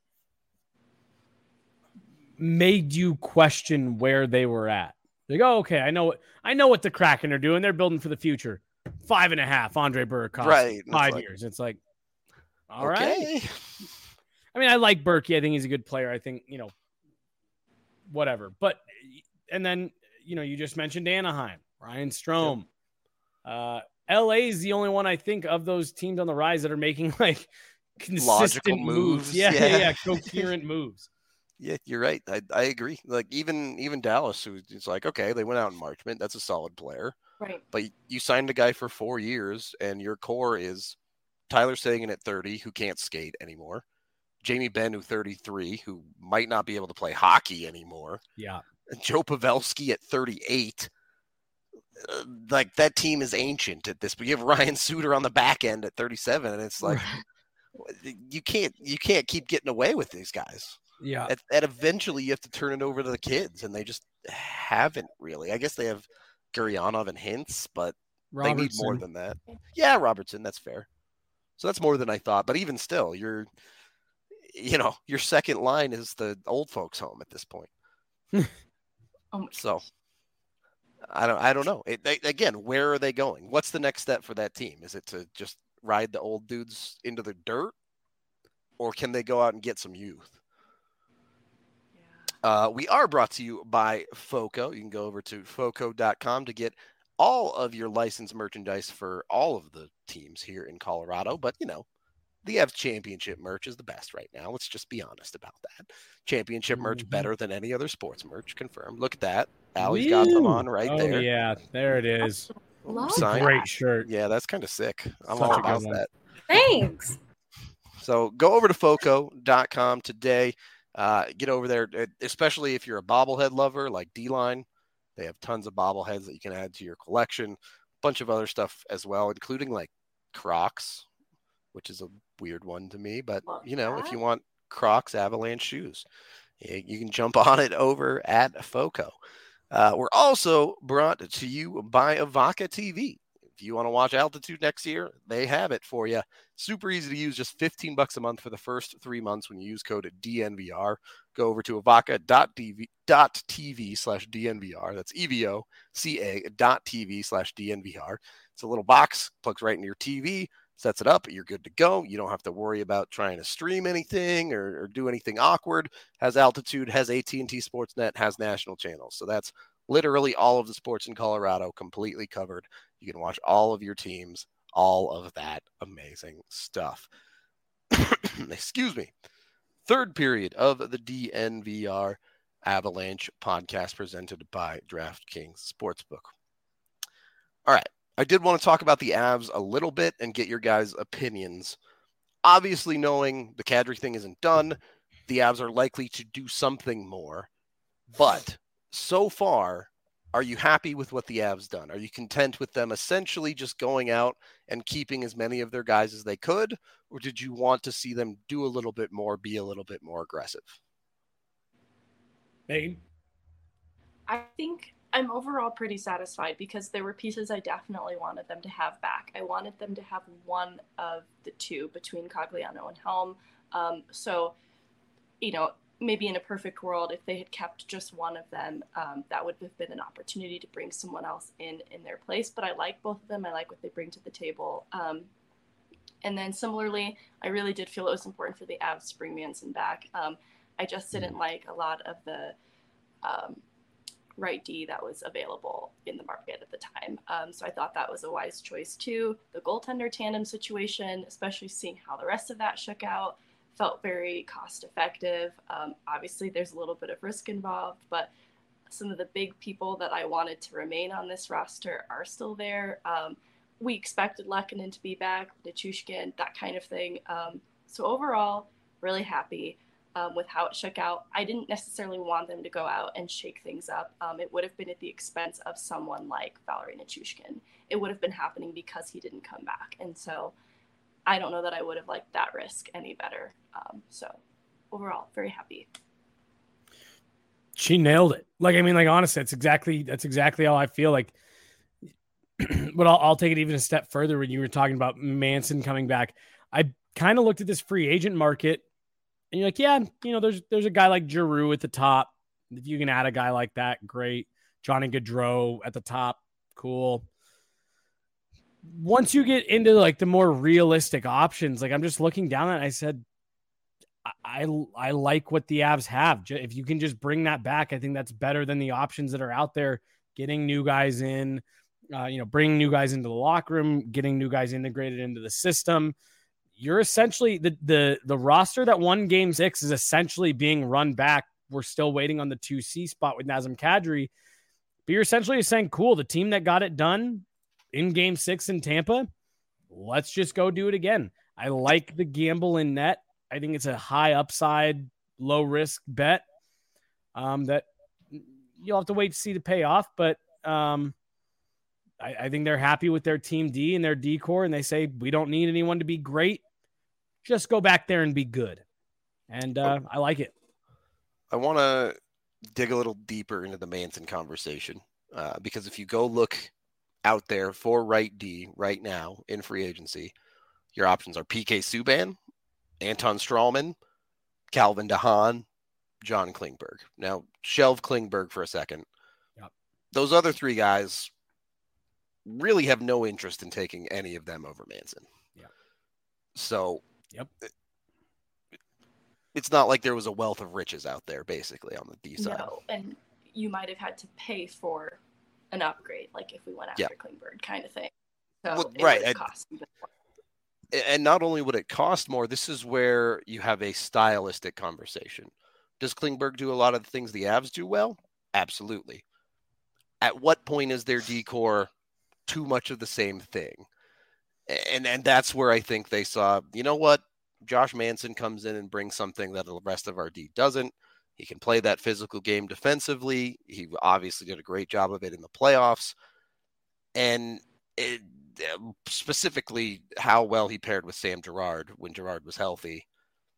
Speaker 3: made you question where they were at. Like, oh, okay, I know what, I know what the Kraken are doing. They're building for the future. Five and a half, Andre Burakovsky.
Speaker 1: Right.
Speaker 3: Five
Speaker 1: like,
Speaker 3: years. It's like, all
Speaker 1: okay.
Speaker 3: right. I mean, I like Berkey. I think he's a good player. I think, you know, whatever. But, and then, you know, you just mentioned Anaheim, Ryan Strome. Yep. Uh, L A is the only one I think of those teams on the rise that are making like consistent
Speaker 1: logical
Speaker 3: moves.
Speaker 1: moves.
Speaker 3: Yeah,
Speaker 1: yeah,
Speaker 3: yeah, yeah, coherent moves.
Speaker 1: Yeah, you're right. I, I agree. Like even even Dallas, who it's like, okay, they went out in Marchment. That's a solid player.
Speaker 2: Right.
Speaker 1: But you signed a guy for four years, and your core is Tyler Seguin at thirty, who can't skate anymore. Jamie Benn, who thirty-three, who might not be able to play hockey anymore.
Speaker 3: Yeah.
Speaker 1: And Joe Pavelski at thirty-eight. Uh, like that team is ancient at this, but you have Ryan Suter on the back end at thirty-seven, and it's like you can't you can't keep getting away with these guys.
Speaker 3: Yeah,
Speaker 1: at, at eventually you have to turn it over to the kids, and they just haven't really. I guess they have Guryanov and Hintz, but
Speaker 3: Robertson.
Speaker 1: They need more than that. Yeah, Robertson, that's fair. So that's more than I thought, but even still, you're you know your second line is the old folks' home at this point.
Speaker 2: um,
Speaker 1: so. I don't. I don't know. It, they, again, where are they going? What's the next step for that team? Is it to just ride the old dudes into the dirt, or can they go out and get some youth? Yeah. Uh, we are brought to you by FOCO. You can go over to foco dot com to get all of your licensed merchandise for all of the teams here in Colorado. But you know, the Avs championship merch is the best right now. Let's just be honest about that. Championship merch mm-hmm. better than any other sports merch. Confirmed. Look at that. Allie's got them on right
Speaker 3: oh,
Speaker 1: there.
Speaker 3: Yeah, there it is.
Speaker 2: Love
Speaker 3: it's a great shirt.
Speaker 1: Yeah, that's kind of sick. I'm
Speaker 3: Such
Speaker 1: all about that.
Speaker 2: Thanks.
Speaker 1: So go over to foco dot com today. Uh, get over there, especially if you're a bobblehead lover like D-Line. They have tons of bobbleheads that you can add to your collection. A bunch of other stuff as well, including like Crocs, which is a weird one to me. But,
Speaker 2: Love
Speaker 1: you know,
Speaker 2: that.
Speaker 1: if you want Crocs Avalanche shoes, you can jump on it over at Foco. Uh, we're also brought to you by Avaca T V. If you want to watch Altitude next year, they have it for you. Super easy to use, just fifteen bucks a month for the first three months when you use code D N V R. Go over to avaca dot t v slash D N V R. That's E V O C A dot T V slash D N V R. It's a little box, plugs right into your T V, sets it up, you're good to go. You don't have to worry about trying to stream anything or, or do anything awkward. Has Altitude, has A T and T Sportsnet, has national channels. So that's literally all of the sports in Colorado completely covered. You can watch all of your teams, all of that amazing stuff. Excuse me. Third period of the D N V R Avalanche podcast presented by DraftKings Sportsbook. All right. I did want to talk about the Avs a little bit and get your guys' opinions. Obviously, knowing the Kadri thing isn't done, the Avs are likely to do something more. But so far, are you happy with what the Avs done? Are you content with them essentially just going out and keeping as many of their guys as they could? Or did you want to see them do a little bit more, be a little bit more aggressive?
Speaker 3: Megan?
Speaker 2: I think I'm overall pretty satisfied because there were pieces I definitely wanted them to have back. I wanted them to have one of the two between Cogliano and Helm. Um, so, you know, maybe in a perfect world, if they had kept just one of them, um, that would have been an opportunity to bring someone else in in their place. But I like both of them. I like what they bring to the table. Um, and then similarly, I really did feel it was important for the Avs to bring Manson back. Um, I just didn't like a lot of the um, right D that was available in the market at the time. Um, so I thought that was a wise choice too. The goaltender tandem situation, especially seeing how the rest of that shook out, felt very cost effective. Um, obviously, there's a little bit of risk involved, but some of the big people that I wanted to remain on this roster are still there. Um, we expected Lehkonen to be back, Nichushkin, that kind of thing. Um, so overall, really happy um, with how it shook out. I didn't necessarily want them to go out and shake things up. Um, it would have been at the expense of someone like Valeri Nichushkin. It would have been happening because he didn't come back. And so I don't know that I would have liked that risk any better. Um, so overall, very happy.
Speaker 3: She nailed it. Like, I mean, like, honestly, that's exactly, that's exactly how I feel like, but I'll, I'll take it even a step further. When you were talking about Manson coming back, I kind of looked at this free agent market and you're like, yeah, you know, there's, there's a guy like Giroux at the top. If you can add a guy like that, great. Johnny Gaudreau at the top. Cool. Once you get into like the more realistic options, like I'm just looking down at it, I said, I, I I like what the Avs have. If you can just bring that back, I think that's better than the options that are out there. Getting new guys in, uh, you know, bringing new guys into the locker room, getting new guys integrated into the system. You're essentially the the the roster that won Game Six is essentially being run back. We're still waiting on the two C spot with Nazem Kadri, but you're essentially saying, cool, the team that got it done in Game Six in Tampa, let's just go do it again. I like the gamble in net. I think it's a high upside, low risk bet um, that you'll have to wait to see the payoff. But um, I, I think they're happy with their team D and their D core, and they say we don't need anyone to be great. Just go back there and be good. And uh, I like it.
Speaker 1: I want to dig a little deeper into the Manson conversation uh, because if you go look out there for right D right now in free agency, your options are P K Subban, Anton Strawman, Calvin DeHaan, John Klingberg. Now, shelve Klingberg for a second.
Speaker 3: Yep. Those
Speaker 1: other three guys really have no interest in taking any of them over Manson.
Speaker 3: Yeah.
Speaker 1: So,
Speaker 3: yep.
Speaker 1: It, it's not like there was a wealth of riches out there, basically, on the D side.
Speaker 2: No, and you might have had to pay for an upgrade, like if we went after
Speaker 1: yep.
Speaker 2: Klingberg kind of thing. So
Speaker 1: well,
Speaker 2: it
Speaker 1: right.
Speaker 2: would
Speaker 1: And,
Speaker 2: cost even more.
Speaker 1: And not only would it cost more, this is where you have a stylistic conversation. Does Klingberg do a lot of the things the Avs do well? Absolutely. At what point is their decor too much of the same thing? And and that's where I think they saw, you know what? Josh Manson comes in and brings something that the rest of our D doesn't. He can play that physical game defensively. He obviously did a great job of it in the playoffs. And it, specifically how well he paired with Sam Girard when Girard was healthy.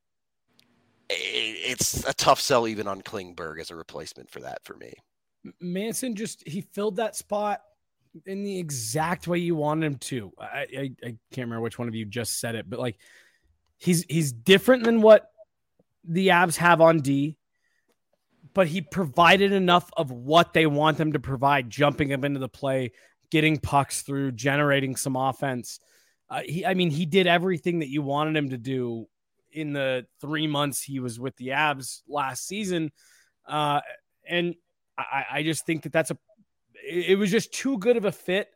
Speaker 1: It's a tough sell even on Klingberg as a replacement for that for me.
Speaker 3: Manson just, he filled that spot in the exact way you wanted him to. I, I, I can't remember which one of you just said it, but like he's he's different than what the Avs have on D, but he provided enough of what they want them to provide, jumping them into the play, getting pucks through, generating some offense. Uh, he, I mean, he did everything that you wanted him to do in the three months he was with the Avs last season. Uh, and I, I just think that that's a, it was just too good of a fit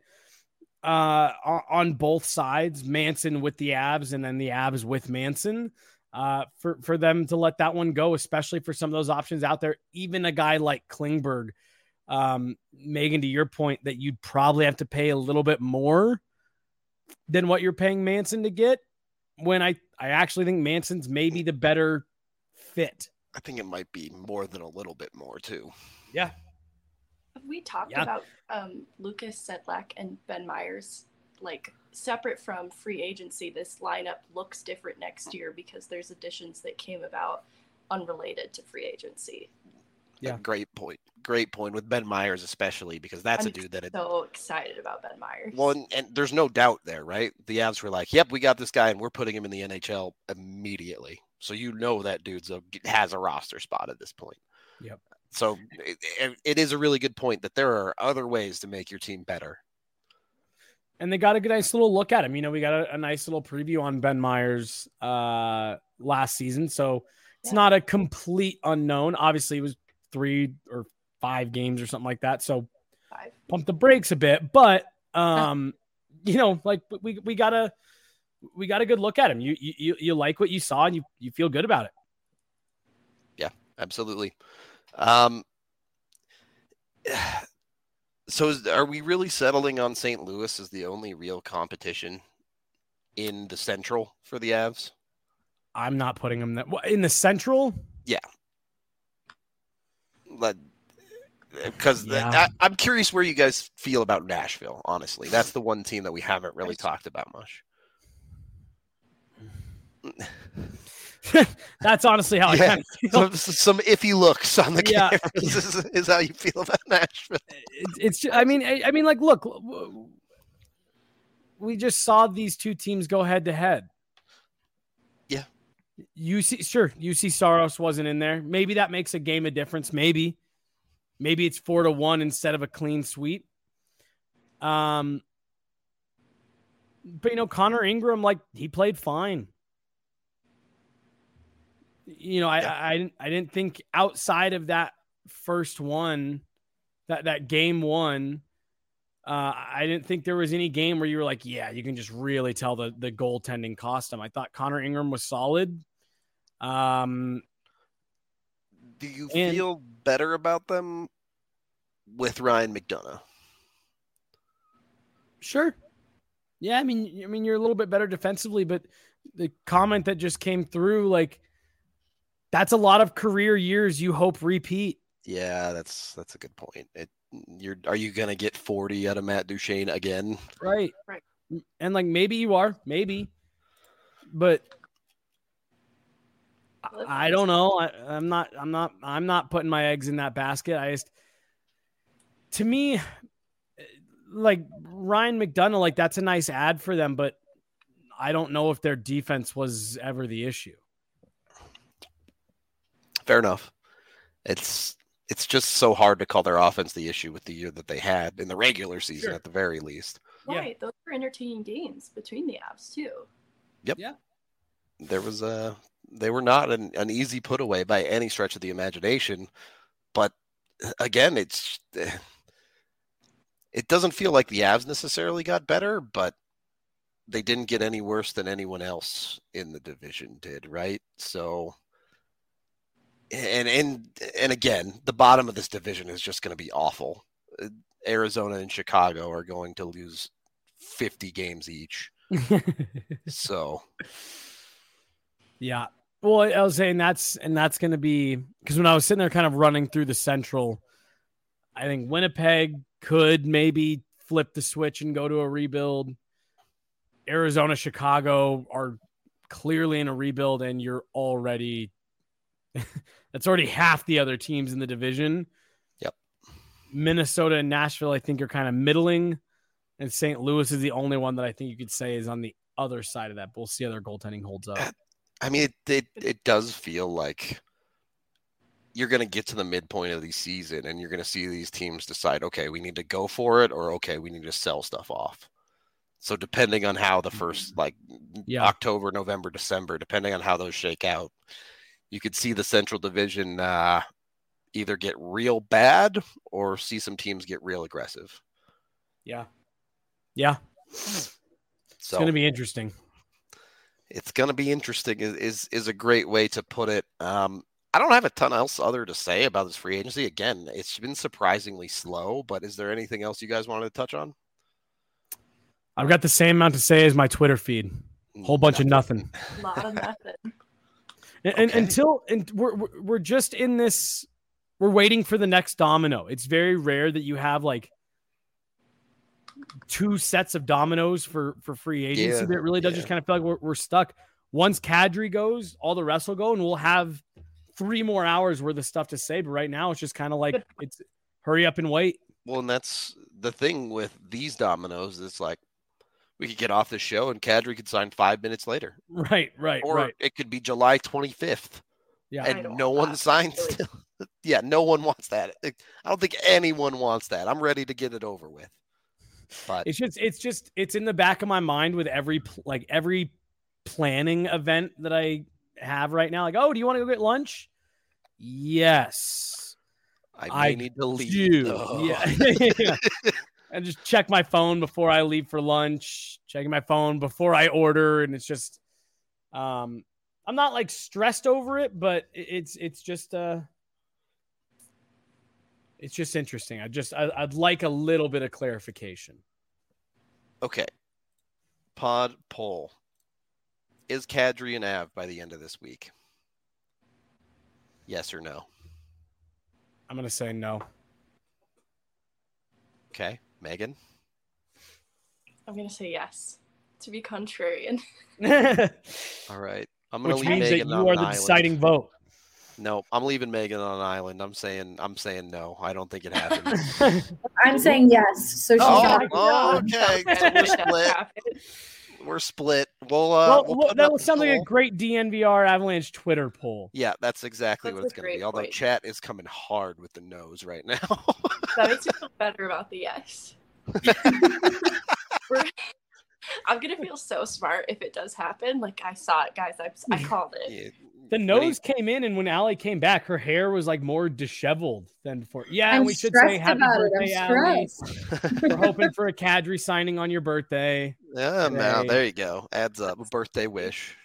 Speaker 3: uh, on both sides, Manson with the Avs and then the Avs with Manson, uh, for, for them to let that one go, especially for some of those options out there. Even a guy like Klingberg, um, Megan, to your point that you'd probably have to pay a little bit more than what you're paying Manson to get, when I, I actually think Manson's maybe the better fit.
Speaker 1: I think it might be more than a little bit more too.
Speaker 3: Yeah.
Speaker 2: Have we talked
Speaker 3: Yeah.
Speaker 2: about um, Lucas Sedlak and Ben Myers, like separate from free agency? This lineup looks different next year because there's additions that came about unrelated to free agency.
Speaker 3: Yeah.
Speaker 1: Great point. Great point with Ben Myers, especially because that's
Speaker 2: I'm
Speaker 1: a dude that had,
Speaker 2: so excited about Ben Myers.
Speaker 1: well, and, and there's no doubt there, right? The Avs were like, yep, we got this guy and we're putting him in the N H L immediately. So you know that dude's a, has a roster spot at this point.
Speaker 3: Yep.
Speaker 1: So it, it is a really good point that there are other ways to make your team better.
Speaker 3: And they got a good, nice little look at him. You know, we got a, a nice little preview on Ben Myers uh, last season. So it's
Speaker 2: Yeah.
Speaker 3: not a complete unknown. Obviously, it was three or five games or something like that. So
Speaker 2: Five.
Speaker 3: pump the brakes a bit. But, um, you know, like we, we got a, we got a good look at him. You, you, you like what you saw and you, you feel good about it.
Speaker 1: Yeah, absolutely. Um, so is, are we really settling on Saint Louis as the only real competition in the Central for the Avs?
Speaker 3: I'm not putting him that in the Central.
Speaker 1: Yeah. Because
Speaker 3: Yeah.
Speaker 1: I'm curious where you guys feel about Nashville, honestly. That's the one team that we haven't really talked about much.
Speaker 3: That's honestly how
Speaker 1: Yeah.
Speaker 3: I kind of feel.
Speaker 1: Some, some iffy looks on the
Speaker 3: Yeah.
Speaker 1: cameras is, is how you feel about Nashville.
Speaker 3: It's, it's just, I mean, I, I mean, like, look, we just saw these two teams go head to head.
Speaker 1: Yeah.
Speaker 3: U C, sure, U C Saros wasn't in there. Maybe that makes a game of difference. Maybe, maybe it's four to one instead of a clean sweep. Um, but you know, Connor Ingram, like, he played fine. You know, I,
Speaker 1: Yeah.
Speaker 3: I, I didn't, I didn't think outside of that first one, that, that game one, uh, I didn't think there was any game where you were like, yeah, you can just really tell the, the goaltending cost him. I thought Connor Ingram was solid. Um,
Speaker 1: Do you
Speaker 3: and-
Speaker 1: feel better about them with Ryan McDonough?
Speaker 3: Sure. Yeah. I mean, I mean, you're a little bit better defensively, but the comment that just came through, like, that's a lot of career years you hope repeat.
Speaker 1: Yeah, that's that's a good point. It, you're are you gonna get forty out of Matt Duchene again?
Speaker 3: Right.
Speaker 2: Right.
Speaker 3: And like, maybe you are, maybe, but I, I don't know. I, I'm not, I'm not, I'm not putting my eggs in that basket. I just, to me, like Ryan McDonough, like that's a nice ad for them, but I don't know if their defense was ever the issue.
Speaker 1: Fair enough. It's it's just so hard to call their offense the issue with the year that they had in the regular season,
Speaker 3: Sure.
Speaker 1: at the very least.
Speaker 3: Yeah.
Speaker 2: Right. Those were entertaining games between the Avs too.
Speaker 1: There was a they were not an, an easy put away by any stretch of the imagination, but again, it's it doesn't feel like the Avs necessarily got better, but they didn't get any worse than anyone else in the division did, right? So. And and and again, the bottom of this division is just going to be awful. Arizona and Chicago are going to lose fifty games each. So
Speaker 3: Yeah. Well, I was saying that's and that's going to be because when I was sitting there kind of running through the Central, I think Winnipeg could maybe flip the switch and go to a rebuild. Arizona, Chicago are clearly in a rebuild, and you're already that's already half the other teams in the division.
Speaker 1: Yep.
Speaker 3: Minnesota and Nashville, I think, are kind of middling, and Saint Louis is the only one that I think you could say is on the other side of that. But we'll see how their goaltending holds up.
Speaker 1: I mean, it it, it does feel like you're going to get to the midpoint of the season and you're going to see these teams decide, okay, we need to go for it, or okay, we need to sell stuff off. So depending on how the first, like
Speaker 3: yeah.
Speaker 1: October, November, December, depending on how those shake out, you could see the Central Division uh, either get real bad or see some teams get real aggressive.
Speaker 3: Yeah. Yeah.
Speaker 1: So
Speaker 3: it's going to be interesting.
Speaker 1: It's going to be interesting is, is, is a great way to put it. Um, I don't have a ton else other to say about this free agency. Again, it's been surprisingly slow, but is there anything else you guys wanted to touch on?
Speaker 3: I've got the same amount to say as my Twitter feed. Whole bunch
Speaker 1: nothing.
Speaker 3: of nothing.
Speaker 2: A lot of nothing.
Speaker 3: And,
Speaker 1: Okay.
Speaker 3: and until and we're we're just in this, we're waiting for the next domino. It's very rare that you have like two sets of dominoes for for free agency.
Speaker 1: Yeah,
Speaker 3: but it really does
Speaker 1: yeah.
Speaker 3: just kind of feel like we're, we're stuck. Once Kadri goes, all the rest will go, and we'll have three more hours worth of stuff to say. But right now, it's just kind of like it's hurry up and wait.
Speaker 1: Well, and that's the thing with these dominoes. It's like we could get off the show and Kadri could sign five minutes later.
Speaker 3: Right, right,
Speaker 1: Or
Speaker 3: right.
Speaker 1: it could be July twenty-fifth.
Speaker 3: Yeah,
Speaker 2: I
Speaker 1: And
Speaker 2: don't
Speaker 1: no
Speaker 2: want
Speaker 1: one
Speaker 2: that.
Speaker 1: signs
Speaker 2: Really.
Speaker 1: still. Yeah, no one wants that. I don't think anyone wants that. I'm ready to get it over with. But
Speaker 3: It's just, it's just, it's in the back of my mind with every pl- like every planning event that I have right now. Like, oh, do you want to go get lunch? Yes,
Speaker 1: I may
Speaker 3: I
Speaker 1: need to leave.
Speaker 3: do.
Speaker 1: though.
Speaker 3: Yeah. Yeah. And just check my phone before I leave for lunch. Checking my phone before I order, and it's just, um, I'm not like stressed over it, but it- it's it's just uh, it's just interesting. I just I, I'd like a little bit of clarification.
Speaker 1: Okay. Pod poll. Is Kadri an Av by the end of this week? Yes or no?
Speaker 3: I'm gonna say no.
Speaker 1: Okay. Megan?
Speaker 2: I'm gonna say yes to be contrarian.
Speaker 1: All right. I'm going to
Speaker 3: Which
Speaker 1: leave
Speaker 3: means that
Speaker 1: Megan
Speaker 3: you
Speaker 1: on
Speaker 3: are
Speaker 1: an
Speaker 3: the
Speaker 1: island.
Speaker 3: deciding vote.
Speaker 1: No, I'm leaving Megan on an island. I'm saying I'm saying no. I don't think it happens.
Speaker 4: I'm saying yes. So she's
Speaker 1: Oh,
Speaker 4: not.
Speaker 1: oh, okay. So we're
Speaker 2: That
Speaker 1: split.
Speaker 2: happened.
Speaker 1: We're split. We'll uh
Speaker 3: well,
Speaker 1: we'll
Speaker 3: well,
Speaker 1: put
Speaker 3: that
Speaker 1: up
Speaker 3: was
Speaker 1: the
Speaker 3: something like a
Speaker 1: poll.
Speaker 3: great D N V R Avalanche Twitter poll.
Speaker 1: Yeah, that's exactly
Speaker 2: That's
Speaker 1: what
Speaker 2: a
Speaker 1: it's going to be.
Speaker 2: great
Speaker 1: Although
Speaker 2: point.
Speaker 1: chat is coming hard with the nose right now.
Speaker 2: That makes me feel better about the yes. We're- I'm gonna feel so smart if it does happen. Like I saw it, guys. I, I called it.
Speaker 1: Yeah,
Speaker 3: The
Speaker 1: when he-
Speaker 3: nose came in, and when Allie came back, her hair was like more disheveled than before. Yeah, and
Speaker 4: I'm
Speaker 3: we should
Speaker 4: stressed
Speaker 3: say happy
Speaker 4: about it.
Speaker 3: birthday,
Speaker 4: I'm
Speaker 3: Allie.
Speaker 4: stressed.
Speaker 3: We're hoping for a Kadri signing on your birthday.
Speaker 1: Yeah, now
Speaker 3: Today.
Speaker 1: there you go. Adds up. A birthday wish.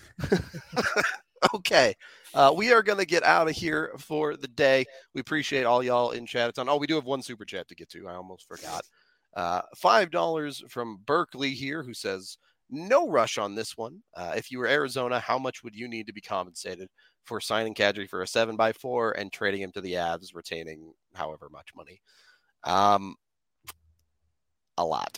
Speaker 1: Okay. Uh, we are going to get out of here for the day. We appreciate all y'all in chat. It's on. Oh, we do have one super chat to get to. I almost forgot. Uh, five dollars from Berkeley here, who says, no rush on this one. Uh, if you were Arizona, how much would you need to be compensated for signing Kadri for a seven by four and trading him to the Avs, retaining however much money? Um, a lot.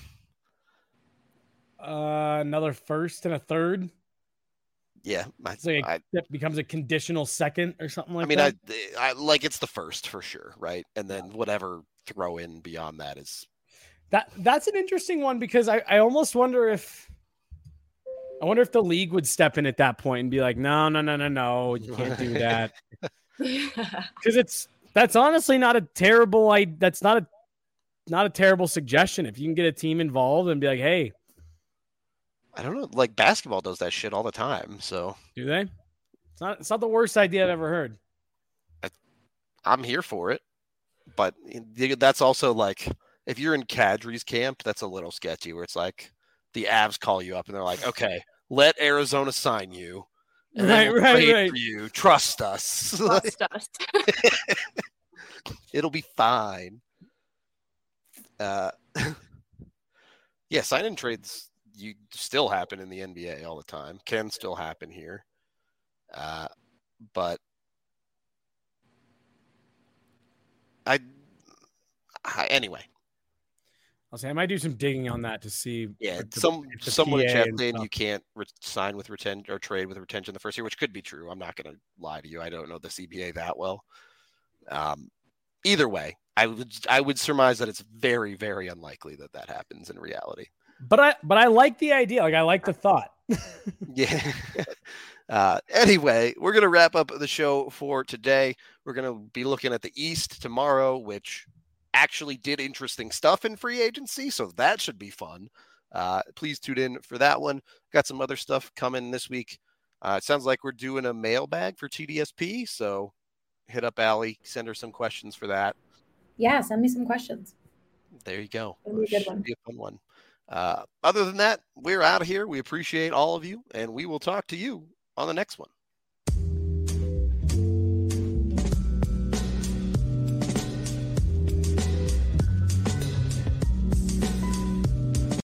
Speaker 3: Uh, another first and a third.
Speaker 1: Yeah. I,
Speaker 3: It's like a,
Speaker 1: I,
Speaker 3: that becomes a conditional second or something like
Speaker 1: I mean,
Speaker 3: that.
Speaker 1: I, I like it's the first for sure, right? And then whatever throw in beyond that is
Speaker 3: That that's an interesting one because I, I almost wonder if I wonder if the league would step in at that point and be like, no, no, no, no, no, you can't do that. Because it's that's honestly not a terrible I that's not a not a terrible suggestion. If you can get a team involved and be like, hey,
Speaker 1: I don't know, like basketball does that shit all the time. So
Speaker 3: do they? It's not it's not the worst idea I've ever heard.
Speaker 1: I'm here for it. But that's also like if you're in Kadri's camp, that's a little sketchy where it's like the Avs call you up and they're like, okay, let Arizona sign you. And then
Speaker 3: Right,
Speaker 1: we'll
Speaker 3: right,
Speaker 1: trade
Speaker 3: right.
Speaker 1: for you. Trust us.
Speaker 2: Trust us.
Speaker 1: It'll be fine. Uh, yeah, sign-in trades you still happen in the N B A all the time. Can still happen here. Uh, but I, I anyway.
Speaker 3: I'll say I might do some digging on that to see.
Speaker 1: Yeah,
Speaker 3: the,
Speaker 1: some
Speaker 3: the
Speaker 1: someone in
Speaker 3: P A
Speaker 1: chat
Speaker 3: and
Speaker 1: saying
Speaker 3: stuff.
Speaker 1: you can't re- sign with retention or trade with retention the first year, which could be true. I'm not going to lie to you. I don't know the C B A that well. Um, either way, I would I would surmise that it's very very unlikely that that happens in reality.
Speaker 3: But I but I like the idea. Like I like the thought.
Speaker 1: Yeah. Uh, anyway, we're going to wrap up the show for today. We're going to be looking at the East tomorrow, which actually did interesting stuff in free agency, so that should be fun. Uh, please tune in for that one. Got some other stuff coming this week. Uh, it sounds like we're doing a mailbag for T D S P, so hit up Allie, send her some questions for that.
Speaker 4: Yeah, send me some questions.
Speaker 1: There you go.
Speaker 4: It'll be a good
Speaker 1: Should
Speaker 4: one.
Speaker 1: be a fun one. Uh, other than that, we're out of here. We appreciate all of you, and we will talk to you on the next one.